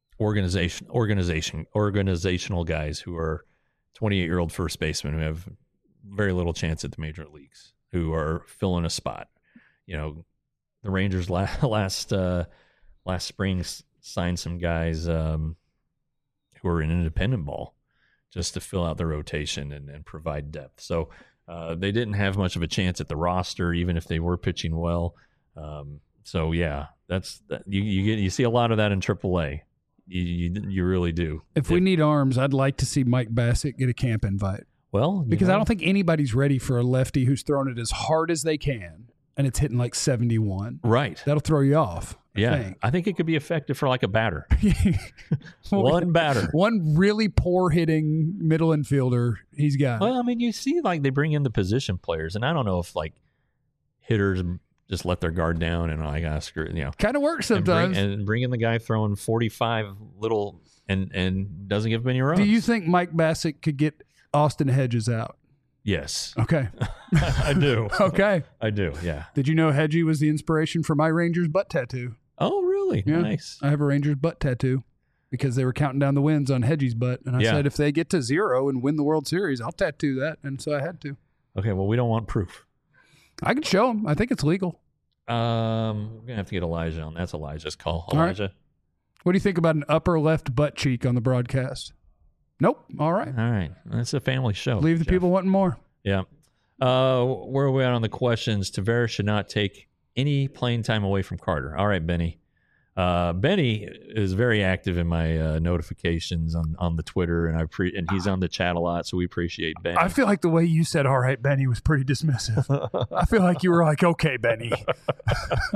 organizational guys who are 28-year-old first basemen who have very little chance at the major leagues, who are filling a spot. The Rangers last spring signed some guys who are in independent ball just to fill out the rotation and provide depth. So they didn't have much of a chance at the roster, even if they were pitching well. So yeah, you see a lot of that in AAA. You really do. If we need arms, I'd like to see Mike Bassett get a camp invite. Well, because I don't think anybody's ready for a lefty who's throwing it as hard as they can and it's hitting like 71. Right. That'll throw you off. I think it could be effective for like a batter. One batter. One really poor hitting middle infielder. He's got. Well, I mean, you see, like they bring in the position players, and I don't know if like hitters just let their guard down and like screw it, kind of works sometimes. And bring in the guy throwing 45 little and doesn't give him any runs. Do you think Mike Bassett could get Austin Hedges out? Yes. Okay. I do. Okay. I do. Yeah. Did you know Hedgie was the inspiration for my Rangers butt tattoo? Oh, really? Yeah. Nice. I have a Rangers butt tattoo because they were counting down the wins on Hedgie's butt, and I said if they get to 0 and win the World Series, I'll tattoo that, and so I had to. Okay. Well, we don't want proof. I can show them. I think it's legal. We're gonna have to get Elijah on. That's Elijah's call. Elijah. Right. What do you think about an upper left butt cheek on the broadcast? Nope. All right. All right. It's a family show. Leave the people wanting more. Yeah. Where are we at on the questions? Tavares should not take any playing time away from Carter. All right, Benny. Benny is very active in my notifications on the Twitter, and he's on the chat a lot, so we appreciate Benny. I feel like the way you said "all right, Benny" was pretty dismissive. I feel like you were like, "Okay, Benny."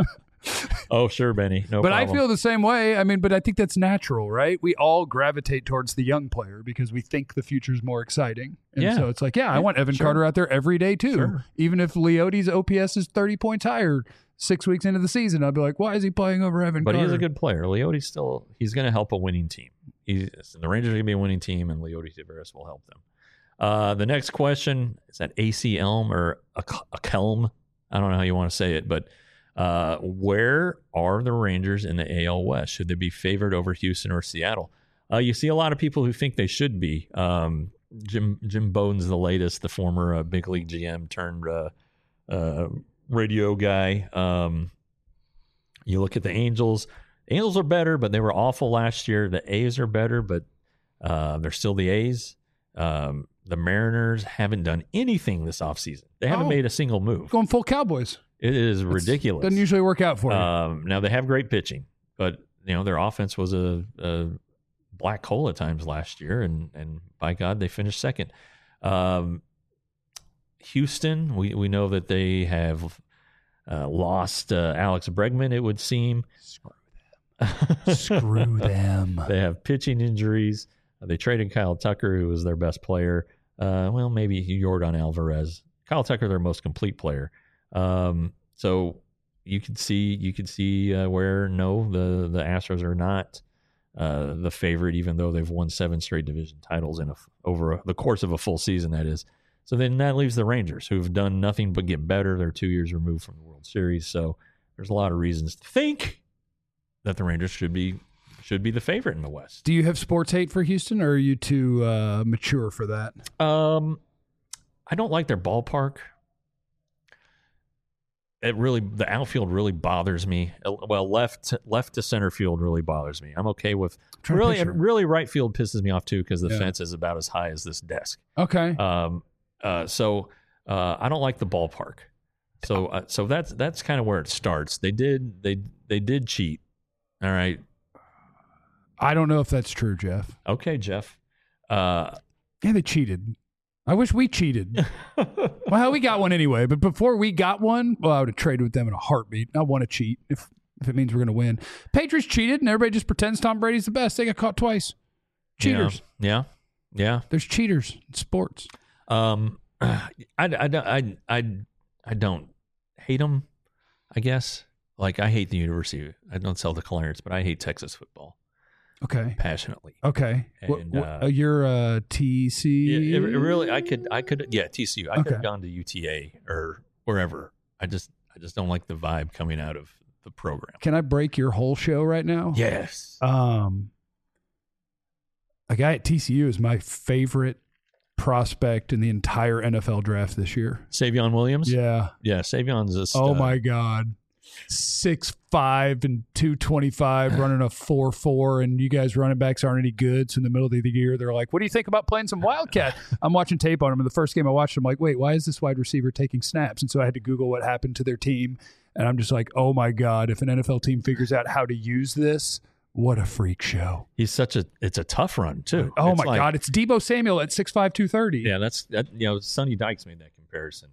Oh, sure, Benny. No but problem. I feel the same way. I mean, but I think that's natural, right? We all gravitate towards the young player because we think the future's more exciting. And so it's like, I want Evan Carter out there every day too. Sure. Even if Leote's OPS is 30 points higher 6 weeks into the season, I'd be like, why is he playing over Evan Carter? But he is a good player. Leote's he's going to help a winning team. The Rangers are going to be a winning team, and Leote Taveras will help them. The next question is that AC Elm or a Kelm. I don't know how you want to say it, but where are the Rangers in the AL West? Should they be favored over Houston or Seattle? You see a lot of people who think they should be. Jim Bowden's the latest, the former big league GM turned radio guy. You look at the Angels. The Angels are better, but they were awful last year. The A's are better, but they're still the A's. The Mariners haven't done anything this offseason. They haven't made a single move. Going full Cowboys. It is ridiculous. Doesn't usually work out for you. Now, they have great pitching, but their offense was a black hole at times last year, and by God, they finished second. Houston, we know that they have lost Alex Bregman, it would seem. Screw them. They have pitching injuries. They traded Kyle Tucker, who was their best player. Maybe Yordan Alvarez. Kyle Tucker, their most complete player. So you could see where the Astros are not the favorite, even though they've won 7 straight division titles over the course of a full season. That is. So then that leaves the Rangers, who've done nothing but get better. They're 2 years removed from the World Series, so there's a lot of reasons to think that the Rangers should be the favorite in the West. Do you have sports hate for Houston, or are you too mature for that? I don't like their ballpark. The outfield really bothers me. Well, left to center field really bothers me. I'm okay with really right field pisses me off too because the fence is about as high as this desk. Okay. So I don't like the ballpark. So that's kind of where it starts. They did cheat. All right. I don't know if that's true, Jeff. Okay, Jeff. They cheated. I wish we cheated. Well, we got one anyway. But before we got one, I would have traded with them in a heartbeat. I want to cheat if it means we're going to win. Patriots cheated, and everybody just pretends Tom Brady's the best. They got caught twice. Cheaters. Yeah. There's cheaters in sports. I don't hate them, I guess. Like, I hate the university. I don't sell the Clarence, but I hate Texas football. Okay. Passionately. Okay. And, you're a TC? Yeah, really, I could, TCU. I could have gone to UTA or wherever. I just don't like the vibe coming out of the program. Can I break your whole show right now? Yes. A guy at TCU is my favorite prospect in the entire NFL draft this year. Savion Williams? Yeah. Yeah, Savion's a stud. Oh, my God. 6'5" and 225, running a 4.4, and you guys running backs aren't any good. So in the middle of the year, they're like, what do you think about playing some Wildcat? I'm watching tape on him, and the first game I watched, I'm like, wait, why is this wide receiver taking snaps? And so I had to Google what happened to their team, and I'm just like, oh, my God, if an NFL team figures out how to use this, what a freak show. It's a tough run, too. Oh, my God, it's Deebo Samuel at 6'5", 230. Yeah, Sonny Dykes made that comparison.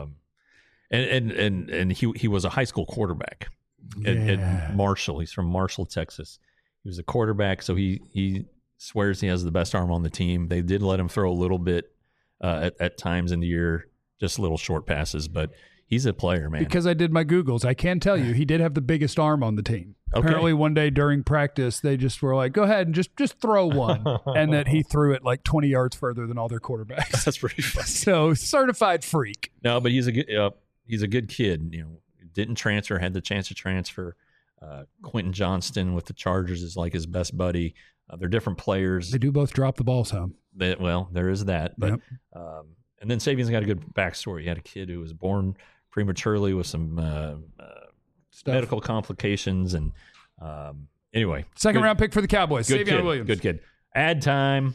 And he was a high school quarterback at Marshall. He's from Marshall, Texas. He was a quarterback, so he swears he has the best arm on the team. They did let him throw a little bit at times in the year, just little short passes, but he's a player, man. Because I did my Googles, I can tell you he did have the biggest arm on the team. Okay. Apparently one day during practice, they just were like, go ahead and just throw one. And that he threw it like 20 yards further than all their quarterbacks. That's pretty funny. So certified freak. No, but he's a good kid. Didn't transfer, had the chance to transfer. Quentin Johnston with the Chargers is like his best buddy. They're different players. They do both drop the ball some. There is that. But yep. And then Savion's got a good backstory. He had a kid who was born prematurely with some medical complications. And anyway. Second round pick for the Cowboys. Good Savion kid, Williams. Good kid. Ad time.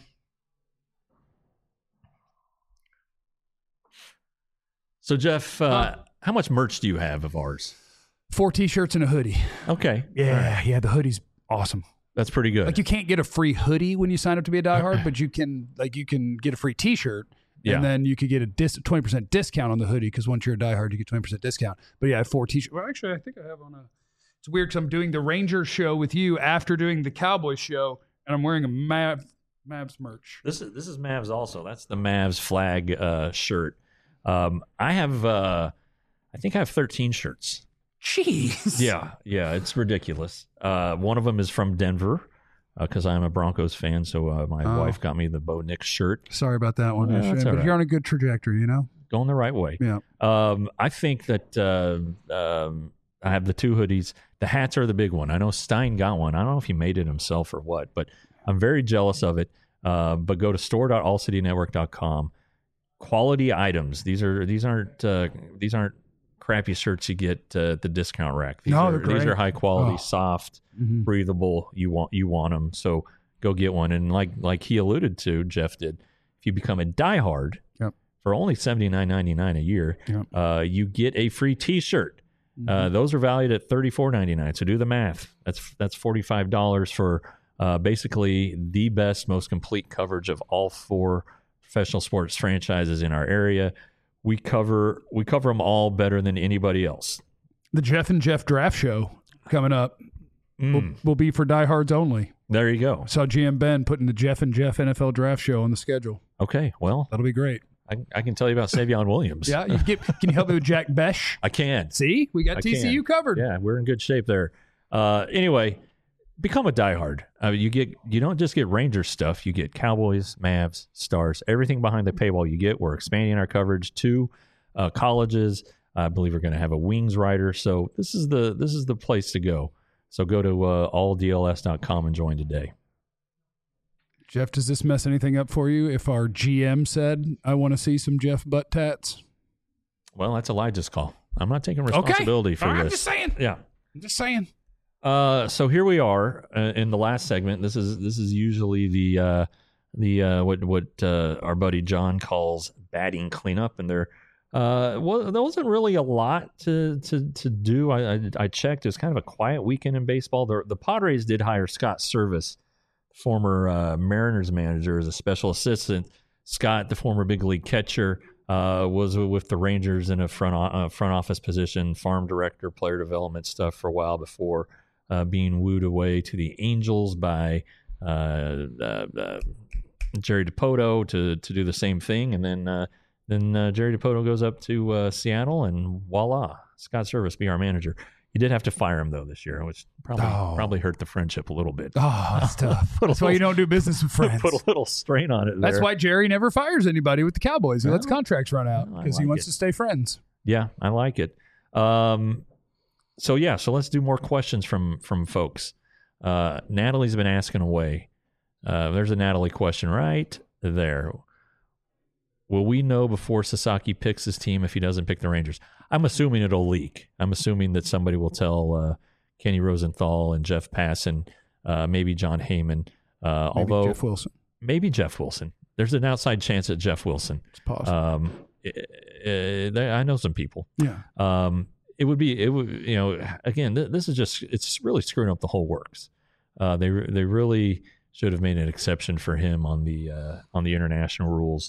So, Jeff, how much merch do you have of ours? 4 T-shirts and a hoodie. Okay. Yeah, the hoodie's awesome. That's pretty good. Like, you can't get a free hoodie when you sign up to be a diehard, but you can get a free T-shirt, and then you could get a 20% discount on the hoodie because once you're a diehard, you get 20% discount. But yeah, I have 4 T-shirts. Well, actually, I think I have on a. It's weird because I'm doing the Rangers show with you after doing the Cowboys show, and I'm wearing a Mavs merch. This is Mavs also. That's the Mavs flag shirt. I have I think I have 13 shirts. Jeez. Yeah, it's ridiculous. One of them is from Denver because I'm a Broncos fan, so my wife got me the Bo Nix shirt. Sorry about that one. That's but you're on a good trajectory, you know? Going the right way. Yeah. I think that I have the 2 hoodies. The hats are the big one. I know Stein got one. I don't know if he made it himself or what, but I'm very jealous of it. But go to store.allcitynetwork.com. Quality items. These aren't crappy shirts you get at the discount rack. These are high quality, soft, breathable. You want them. So go get one. And like he alluded to, Jeff did. If you become a diehard for only $79.99 a year, you get a free T-shirt. Those are valued at $34.99. So do the math. That's $45 for basically the best, most complete coverage of all 4 professional sports franchises in our area. We cover them all better than anybody else. The Jeff and Jeff draft show coming up will be for diehards only. There you go. Saw GM Ben putting the Jeff and Jeff NFL draft show on the schedule. Okay, well, that'll be great. I can tell you about Savion Williams. Yeah, can you help me with Jack Besh? I can. See, we got TCU covered. Yeah, we're in good shape there. Anyway, become a diehard. You don't just get Rangers stuff. You get Cowboys, Mavs, Stars, everything behind the paywall you get. We're expanding our coverage to colleges. I believe we're going to have a Wings writer. So this is the place to go. So go to alldls.com and join today. Jeff, does this mess anything up for you if our GM said, I want to see some Jeff butt tats? Well, that's Elijah's call. I'm not taking responsibility for this. I'm just saying. Yeah. I'm just saying. So here we are in the last segment. This is usually the what our buddy John calls batting cleanup, and there wasn't really a lot to do. I checked. It was kind of a quiet weekend in baseball. The Padres did hire Scott Service, former Mariners manager, as a special assistant. Scott, the former big league catcher, was with the Rangers in a front office position, farm director, player development stuff for a while before being wooed away to the Angels by Jerry Dipoto to do the same thing, and then Jerry Dipoto goes up to Seattle, and voila, Scott Service be our manager. You did have to fire him though this year, which probably hurt the friendship a little bit. Oh, that's tough. That's why you don't do business with friends. Put a little strain on it. That's why Jerry never fires anybody with the Cowboys. He lets contracts run out because he wants to stay friends. Yeah, I like it. So let's do more questions from folks. Natalie's been asking away. There's a Natalie question right there. Will we know before Sasaki picks his team if he doesn't pick the Rangers? I'm assuming it'll leak. I'm assuming that somebody will tell Kenny Rosenthal and Jeff Passan, maybe John Heyman. Although Jeff Wilson. Maybe Jeff Wilson. There's an outside chance at Jeff Wilson. It's possible. I know some people. Yeah. It would again, this is just, it's really screwing up the whole works. They really should have made an exception for him on the international rules.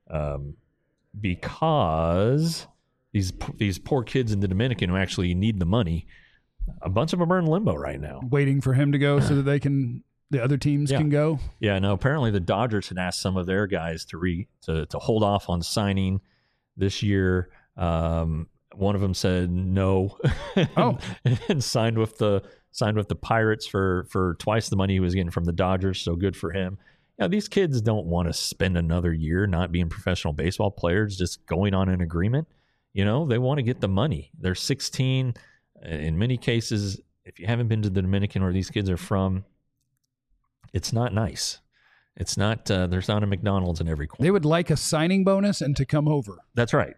Because these poor kids in the Dominican who actually need the money, a bunch of them are in limbo right now, waiting for him to go so that the other teams can go. Yeah, no. Apparently, the Dodgers had asked some of their guys to hold off on signing this year. One of them said no, and signed with the Pirates for twice the money he was getting from the Dodgers. So good for him. Yeah, these kids don't want to spend another year not being professional baseball players, just going on an agreement. They want to get the money. They're 16. In many cases, if you haven't been to the Dominican where these kids are from, it's not nice. It's not, there's not a McDonald's in every corner. They would like a signing bonus and to come over. That's right.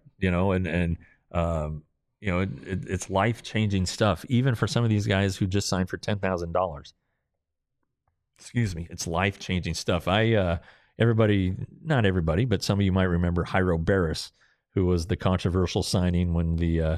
It's life-changing stuff, even for some of these guys who just signed for $10,000. Excuse me. It's life-changing stuff. Not everybody, but some of you might remember Jairo Barris, who was the controversial signing when the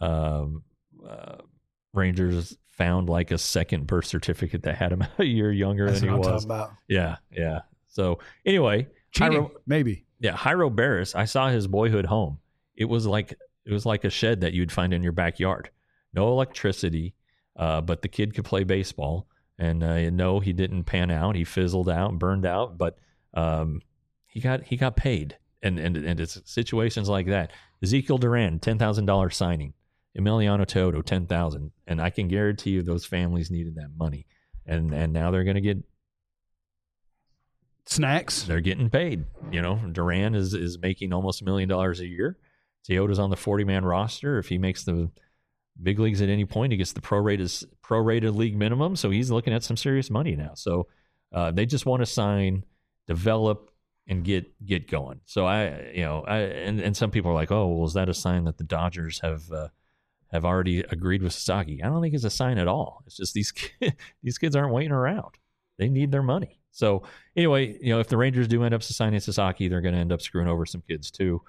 Rangers found like a second birth certificate that had him a year younger than he was. Yeah. So anyway, maybe. Yeah, Jairo Barris. I saw his boyhood home. It was like a shed that you'd find in your backyard. No electricity. but the kid could play baseball. And no, he didn't pan out. He fizzled out, burned out, but he got paid. And it's situations like that. Ezekiel Duran, $10,000 signing. Emiliano Teodo, $10,000. And I can guarantee you those families needed that money. And now they're going to get snacks. They're getting paid. Duran is making almost $1 million a year. Teodo's on the 40-man roster. If he makes the big leagues at any point, he gets the prorated league minimum. So he's looking at some serious money now. So they just want to sign, develop, and get going. So and some people are like, oh, well, is that a sign that the Dodgers have already agreed with Sasaki? I don't think it's a sign at all. It's just these kids aren't waiting around. They need their money. So anyway, if the Rangers do end up signing Sasaki, they're going to end up screwing over some kids too.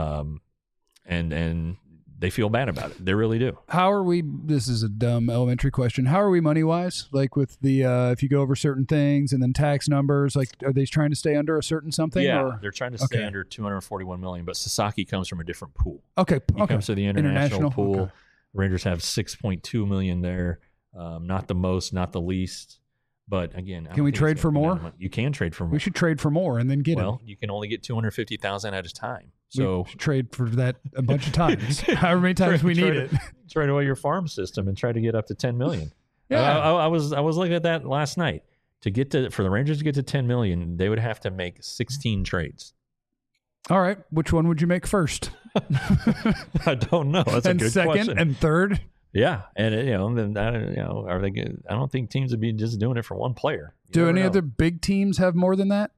And they feel bad about it. They really do. How are we? This is a dumb elementary question. How are we money wise? Like with the if you go over certain things and then tax numbers, like are they trying to stay under a certain something? Yeah, they're trying to stay under $241 million. But Sasaki comes from a different pool. Okay, he comes to the international pool. Okay. Rangers have $6.2 million there. Not the most, not the least. But again, can we trade for more? You can trade for more. We should trade for more and then get Well, you can only get $250,000 at a time. So we should trade for that a bunch of times, however many times we need it. Trade away your farm system and try to get up to $10 million. Yeah, I was looking at that last night. For the Rangers to get to $10 million, they would have to make 16 trades. All right, which one would you make first? I don't know. That's a good second question. And third. Yeah, and then are they? I don't think teams would be just doing it for one player. Do any other big teams have more than that?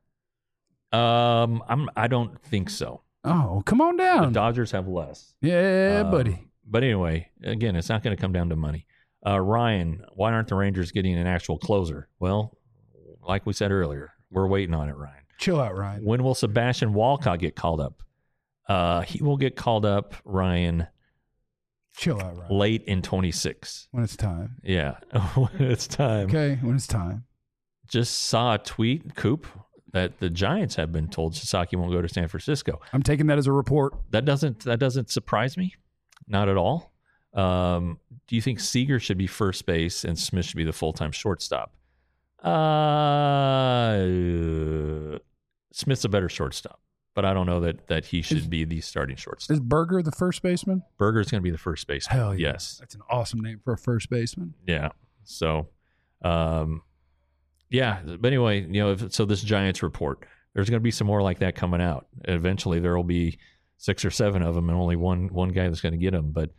I don't think so. Oh, come on down. The Dodgers have less. Yeah, buddy. But anyway, again, it's not going to come down to money. Ryan, why aren't the Rangers getting an actual closer? Well, like we said earlier, we're waiting on it, Ryan. Chill out, Ryan. When will Sebastian Walcott get called up? He will get called up, Ryan. Chill out, Ryan. Late in 26. When it's time. Yeah, when it's time. Okay, when it's time. Just saw a tweet, Coop, that the Giants have been told Sasaki won't go to San Francisco. I'm taking that as a report. That doesn't surprise me, not at all. Do you think Seager should be first base and Smith should be the full-time shortstop? Smith's a better shortstop, but I don't know that he should be the starting shortstop. Is Berger the first baseman? Berger's going to be the first baseman. Hell yeah. Yes. That's an awesome name for a first baseman. Yeah. So, yeah. But anyway, so this Giants report, there's going to be some more like that coming out. Eventually, there will be 6 or 7 of them, and only one guy that's going to get them. But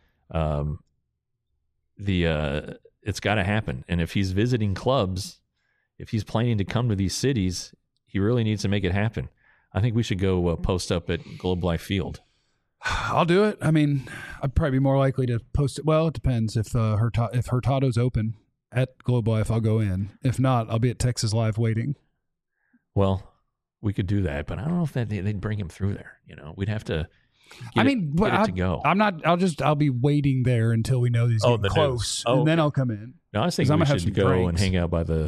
it's got to happen. And if he's visiting clubs, if he's planning to come to these cities, he really needs to make it happen. I think we should go post up at Globe Life Field. I'll do it. I mean, I'd probably be more likely to post it. Well, it depends. If Hurtado's open at Globe Life, I'll go in. If not, I'll be at Texas Live waiting. Well, we could do that, but I don't know if they'd bring him through there. We'd have to. Get it to go. I'm not. I'll be waiting there until we know he's getting close, and then I'll come in. No, I was thinking we should go and hang out by the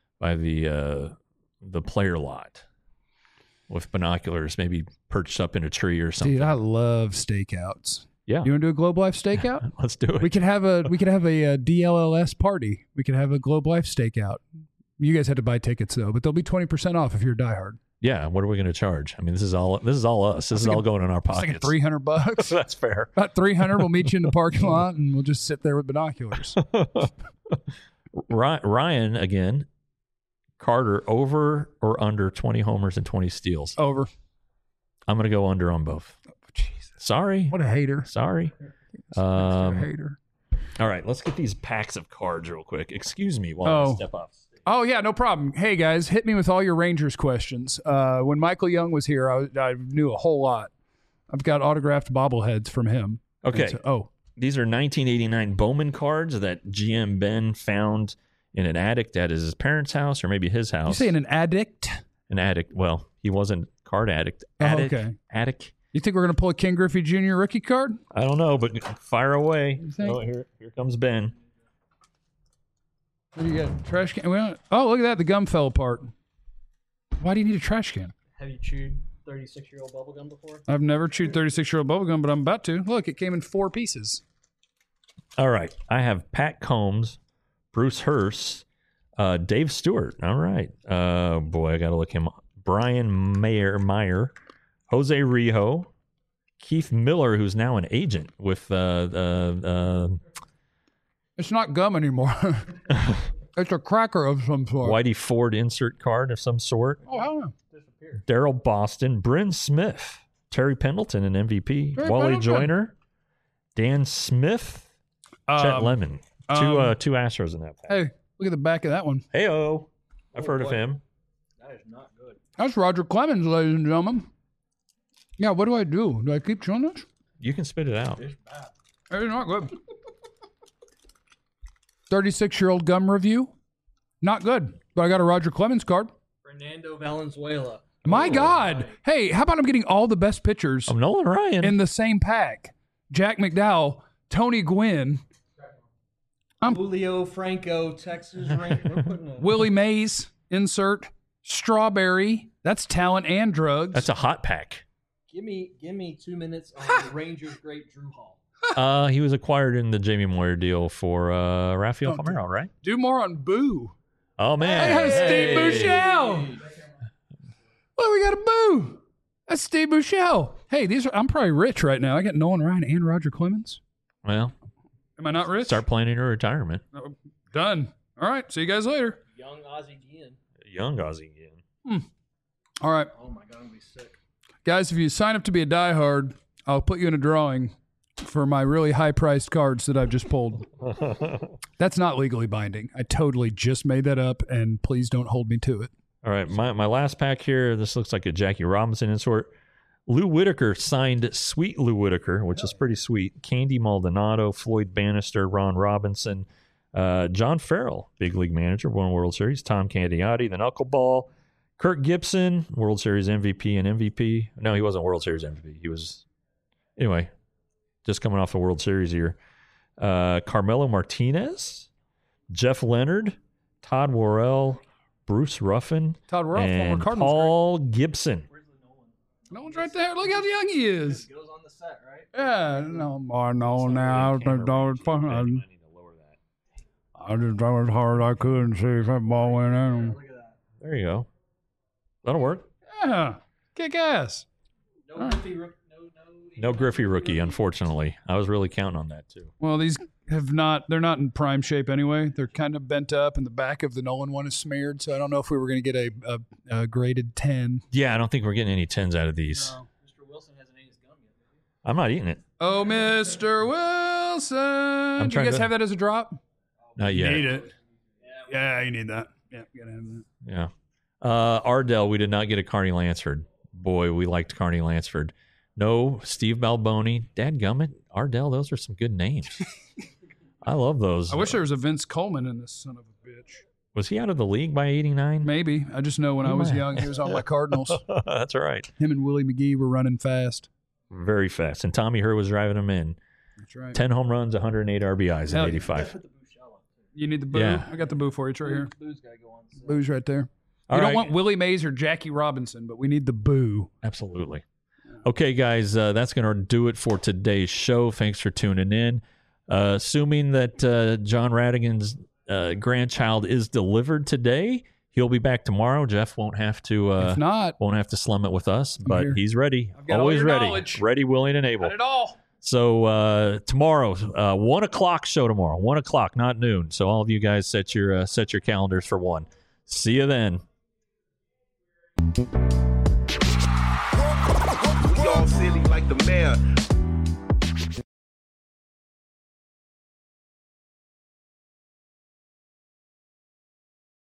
player lot with binoculars, maybe perched up in a tree or something. Dude, I love stakeouts. Yeah, you want to do a Globe Life stakeout? Let's do it. We could have a DLLS party. We could have a Globe Life stakeout. You guys had to buy tickets though, but they'll be 20% off if you're a diehard. Yeah, what are we going to charge? I mean, this is all us. This is all going in our pockets. Like $300. That's fair. About $300. We'll meet you in the parking lot, and we'll just sit there with binoculars. Ryan again. Carter, over or under 20 homers and 20 steals? Over. I'm going to go under on both. Oh, Jesus. Sorry. What a hater. Sorry. A hater. All right, let's get these packs of cards real quick. Excuse me while I step up. Oh, yeah, no problem. Hey, guys, hit me with all your Rangers questions. When Michael Young was here, I knew a whole lot. I've got autographed bobbleheads from him. Okay. These are 1989 Bowman cards that GM Ben found in an attic at his parents' house or maybe his house. You saying an addict? An addict. Well, he wasn't card addict. Okay. Attic. You think we're going to pull a Ken Griffey Jr. rookie card? I don't know, but fire away. Oh, here comes Ben. What do you got? Trash can? Oh, look at that. The gum fell apart. Why do you need a trash can? Have you chewed 36-year-old bubblegum before? I've never chewed 36-year-old bubblegum, but I'm about to. Look, it came in 4 pieces. All right. I have Pat Combs Bruce Hurst, Dave Stewart. All right. Boy, I got to look him up. Brian Meyer, Jose Rijo, Keith Miller, who's now an agent with It's not gum anymore. It's a cracker of some sort. Whitey Ford insert card of some sort. Oh, hell yeah. Daryl Boston, Bryn Smith, Terry Pendleton, an MVP, Wally Joyner, Dan Smith, Chet Lemon. Two Astros in that pack. Hey, look at the back of that one. Hey-o. I've heard of him. That is not good. That's Roger Clemens, ladies and gentlemen. Yeah, what do? Do I keep chewing this? You can spit it out. It's not good. 36-year-old gum review. Not good. But I got a Roger Clemens card. Fernando Valenzuela. My God. Hey, how about I'm getting all the best pitchers I'm Nolan Ryan. in the same pack? Jack McDowell, Tony Gwynn, Julio Franco, Texas Ranger. Willie Mays, insert, Strawberry. That's talent and drugs. That's a hot pack. Give me 2 minutes on the Rangers great Drew Hall. He was acquired in the Jamie Moyer deal for Rafael Palmeiro, right? Do more on Boo. Oh, man. I got Steve Buechele. Well, we got a Boo. That's Steve Buechele. Hey, I'm probably rich right now. I got Nolan Ryan and Roger Clemens. Well, am I not rich? Start planning your retirement. Done. All right. See you guys later. Young Ozzie Guillen. Young Ozzie Guillen. All right. Oh, my God, I'm going to be sick. Guys, if you sign up to be a diehard, I'll put you in a drawing for my really high-priced cards that I've just pulled. That's not legally binding. I totally just made that up, and please don't hold me to it. All right, my last pack here, this looks like a Jackie Robinson insert. Lou Whitaker signed Sweet Lou Whitaker, which is pretty sweet. Candy Maldonado, Floyd Bannister, Ron Robinson, John Farrell, big league manager, won World Series, Tom Candiotti, the Knuckleball, Kirk Gibson, World Series MVP and MVP. No, he wasn't World Series MVP. He was, anyway, just coming off a World Series here. Carmelo Martinez, Jeff Leonard, Todd Worrell, Bruce Ruffin, Todd Worrell, and former Cardinals Paul Gibson. Where's the Nolan? Nolan's right there. Look how young he is. Goes on the set, right? Yeah, no more, no, now. I just threw as hard as I could and see if that ball went in. Look at that. There you go. That'll work. Yeah, kick ass. No Griffey rookie. No Griffey rookie, unfortunately. I was really counting on that, too. Well, these they're not in prime shape anyway. They're kind of bent up, and the back of the Nolan one is smeared, so I don't know if we were going to get a graded 10. Yeah, I don't think we're getting any 10s out of these. No. Mr. Wilson hasn't ate his gum yet. I'm not eating it. Oh, Mr. Wilson. Do you guys have that as a drop? Not yet. You need it. Yeah, you need that. Yeah, you got to have that. Yeah. Ardell, we did not get a Carney Lansford. Boy, we liked Carney Lansford. No, Steve Balboni, Dadgummit, Ardell, those are some good names. I love those. I wish there was a Vince Coleman in this son of a bitch. Was he out of the league by 89? Maybe. I just know when I was young, he was on my Cardinals. That's all right. Him and Willie McGee were running fast. Very fast. And Tommy Herr was driving him in. That's right. 10 home runs, 108 RBIs in 85. You need the Boo? Yeah. I got the Boo for you. It's right here. Boo's got to go on set. Boo's right there. All We right. don't want Willie Mays or Jackie Robinson, but we need the Boo. Absolutely. Okay, guys, that's going to do it for today's show. Thanks for tuning in. Assuming that John Radigan's grandchild is delivered today, he'll be back tomorrow. Jeff won't have to. If not, won't have to slum it with us, but here. he's ready. I've got all Always your ready. knowledge. Ready, willing, and able. got it all. So tomorrow, 1 o'clock show tomorrow. 1 o'clock, not noon. So all of you guys set your calendars for 1. See you then.